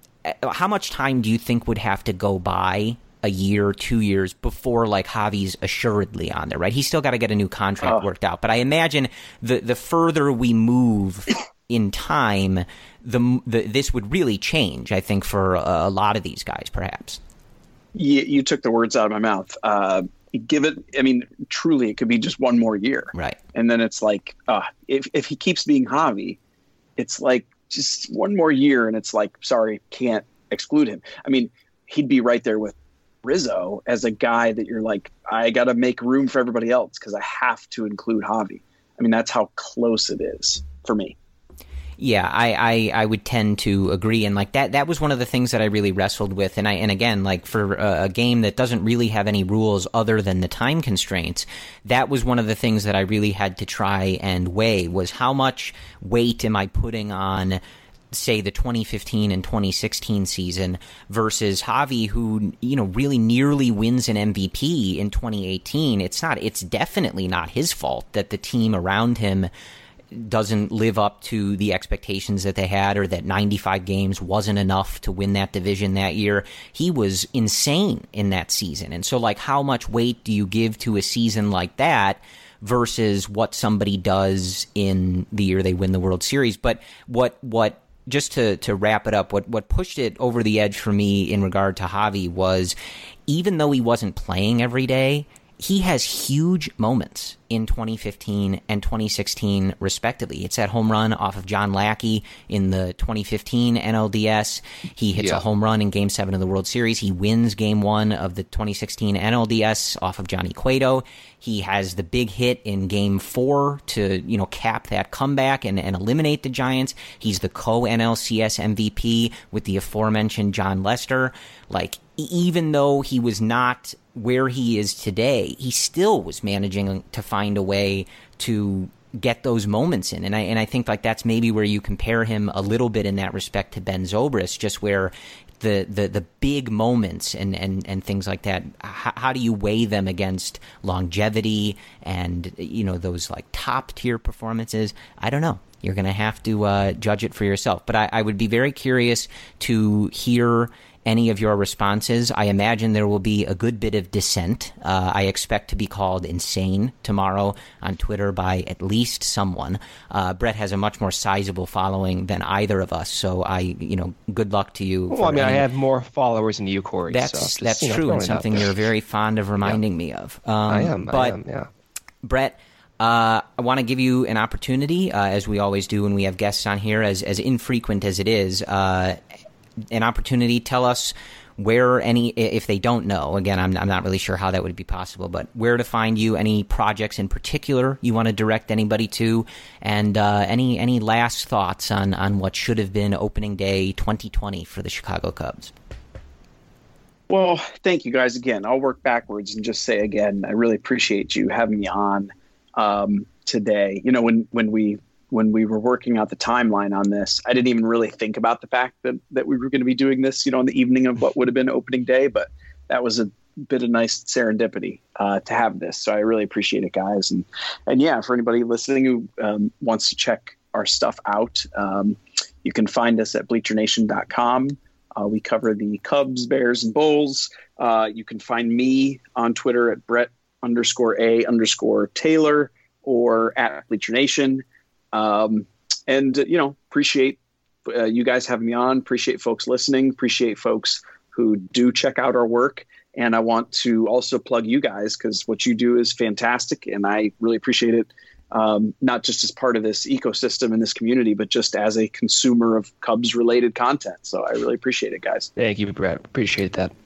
– how much time do you think would have to go by – a year, two years before like Javi's assuredly on there, right? He's still got to get a new contract oh. worked out. But I imagine the the further we move in time, the, the this would really change, I think, for a, a lot of these guys, perhaps. You, you took the words out of my mouth. Uh, give it, I mean, truly, it could be just one more year. Right. And then it's like, uh, if, if he keeps being Javi, it's like just one more year and it's like, sorry, can't exclude him. I mean, he'd be right there with Rizzo as a guy that you're like, I got to make room for everybody else because I have to include Javi. I mean, that's how close it is for me. Yeah, I, I, I would tend to agree. And like that, that was one of the things that I really wrestled with. And I, and again, like for a, a game that doesn't really have any rules other than the time constraints, that was one of the things that I really had to try and weigh was how much weight am I putting on, say, the twenty fifteen and twenty sixteen season versus Javi, who, you know, really nearly wins an M V P in twenty eighteen. It's not, it's definitely not his fault that the team around him doesn't live up to the expectations that they had, or that ninety-five games wasn't enough to win that division that year. He was insane in that season. And so, like, how much weight do you give to a season like that versus what somebody does in the year they win the World Series? But what, what, just to, to wrap it up, what, what pushed it over the edge for me in regard to Javi was, even though he wasn't playing every day, he has huge moments in twenty fifteen and twenty sixteen, respectively. It's that home run off of John Lackey in the twenty fifteen N L D S. He hits yeah. a home run in Game seven of the World Series. He wins Game one of the twenty sixteen N L D S off of Johnny Cueto. He has the big hit in Game four to, you know, cap that comeback and, and eliminate the Giants. He's the co-N L C S M V P with the aforementioned Jon Lester. Like, even though he was not where he is today, he still was managing to find a way to get those moments in. And I and I think like that's maybe where you compare him a little bit in that respect to Ben Zobrist, just where the the, the big moments and, and, and things like that, how, how do you weigh them against longevity and, you know, those like top tier performances? I don't know. You're going to have to uh, judge it for yourself. But I, I would be very curious to hear any of your responses. I imagine there will be a good bit of dissent. Uh, I expect to be called insane tomorrow on Twitter by at least someone. Uh, Brett has a much more sizable following than either of us, so I, you know, good luck to you. Well, I mean, any... I have more followers than you, Corey. That's so just, that's you know, true, and something you're very fond of reminding yeah. me of. Um, I am. But I am. Yeah. Brett, Uh, I want to give you an opportunity, uh, as we always do when we have guests on here, as as infrequent as it is, uh, an opportunity. Tell us where any, if they don't know, again, I'm, I'm not really sure how that would be possible, but where to find you, any projects in particular you want to direct anybody to, and uh, any any last thoughts on, on what should have been opening day twenty twenty for the Chicago Cubs. Well, thank you guys again. I'll work backwards and just say again, I really appreciate you having me on um, today. You know, when, when we when we were working out the timeline on this, I didn't even really think about the fact that, that we were going to be doing this, you know, on the evening of what would have been opening day, but that was a bit of nice serendipity uh, to have this. So I really appreciate it, guys. And, and yeah, for anybody listening who um, wants to check our stuff out, um, you can find us at bleacher nation dot com. Uh, we cover the Cubs, Bears, and Bulls. Uh, you can find me on Twitter at Brett underscore A underscore Taylor or at Bleacher Nation. Um, and, uh, you know, appreciate uh, you guys having me on. Appreciate folks listening. Appreciate folks who do check out our work. And I want to also plug you guys because what you do is fantastic. And I really appreciate it. Um, not just as part of this ecosystem in this community, but just as a consumer of Cubs related content. So I really appreciate it, guys. Thank you, Brett. Appreciate that.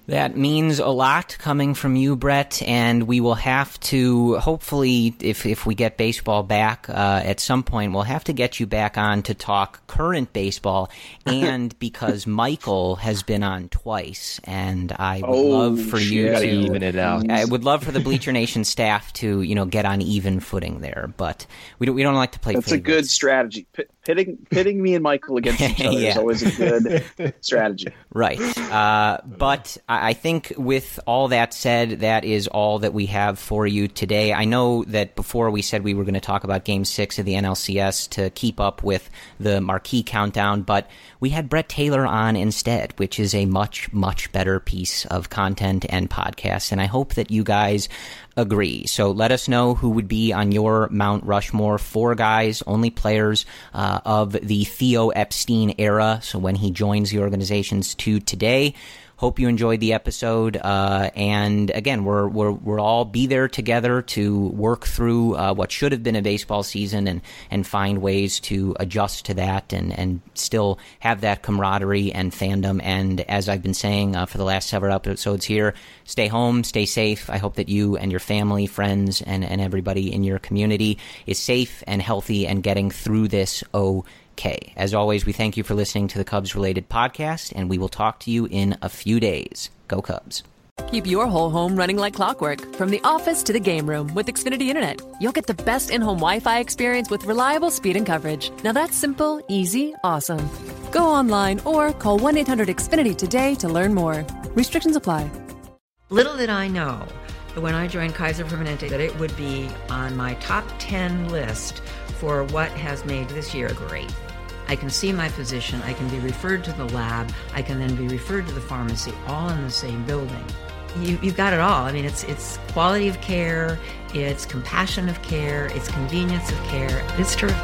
That means a lot coming from you, Brett, and we will have to, hopefully, if if we get baseball back uh, at some point, we'll have to get you back on to talk current baseball, and because Michael has been on twice, and I would oh, love for shit. you to even it out. I would love for the Bleacher Nation staff to, you know, get on even footing there, but we don't we don't like to play That's favorites. a good strategy. P- pitting pitting me and Michael against each other Yeah. is always a good strategy. Right. Uh, but I think with all that said, that is all that we have for you today. I know that before we said we were going to talk about Game six of the N L C S to keep up with the marquee countdown, but we had Brett Taylor on instead, which is a much, much better piece of content and podcast, and I hope that you guys agree. So let us know who would be on your Mount Rushmore. Four guys, only players uh, of the Theo Epstein era, so when he joins the organizations to today. Hope you enjoyed the episode, uh, and again, we're we're we'll all be there together to work through uh, what should have been a baseball season, and, and find ways to adjust to that, and, and still have that camaraderie and fandom. And as I've been saying uh, for the last several episodes here, stay home, stay safe. I hope that you and your family, friends, and, and everybody in your community is safe and healthy and getting through this okay. Okay. As always, we thank you for listening to the Cubs-related podcast, and we will talk to you in a few days. Go Cubs. Keep your whole home running like clockwork, from the office to the game room with Xfinity Internet. You'll get the best in-home Wi-Fi experience with reliable speed and coverage. Now that's simple, easy, awesome. Go online or call one eight hundred X Finity today to learn more. Restrictions apply. Little did I know that when I joined Kaiser Permanente that it would be on my top ten list for what has made this year great. I can see my physician, I can be referred to the lab, I can then be referred to the pharmacy, all in the same building. You, you've got it all. I mean, it's it's quality of care, it's compassion of care, it's convenience of care. It's terrific.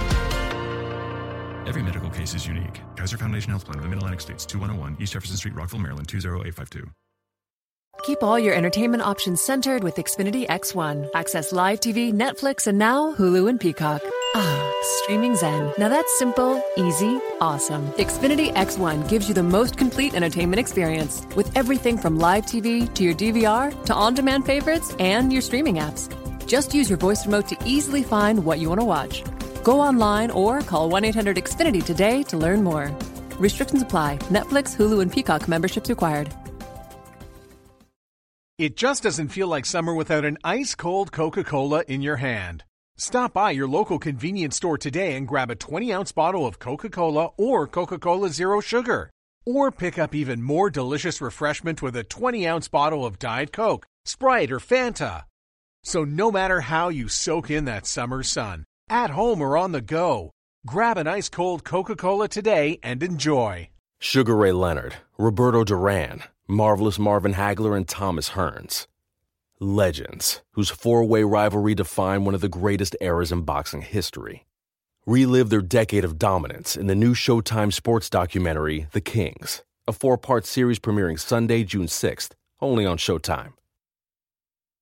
Every medical case is unique. Kaiser Foundation Health Plan of the Mid-Atlantic States, two one oh one East Jefferson Street, Rockville, Maryland, two zero eight five two. Keep all your entertainment options centered with Xfinity X one. Access live T V, Netflix, and now Hulu and Peacock. Ah, streaming zen. Now that's simple, easy, awesome. Xfinity X one gives you the most complete entertainment experience with everything from live T V to your D V R to on-demand favorites and your streaming apps. Just use your voice remote to easily find what you want to watch. Go online or call one eight hundred X Finity today to learn more. Restrictions apply. Netflix, Hulu, and Peacock memberships required. It just doesn't feel like summer without an ice-cold Coca-Cola in your hand. Stop by your local convenience store today and grab a twenty-ounce bottle of Coca-Cola or Coca-Cola Zero Sugar. Or pick up even more delicious refreshment with a twenty-ounce bottle of Diet Coke, Sprite, or Fanta. So no matter how you soak in that summer sun, at home or on the go, grab an ice-cold Coca-Cola today and enjoy. Sugar Ray Leonard, Roberto Duran, Marvelous Marvin Hagler, and Thomas Hearns. Legends, whose four-way rivalry defined one of the greatest eras in boxing history. Relive their decade of dominance in the new Showtime sports documentary, The Kings, a four-part series premiering Sunday, June sixth, only on Showtime.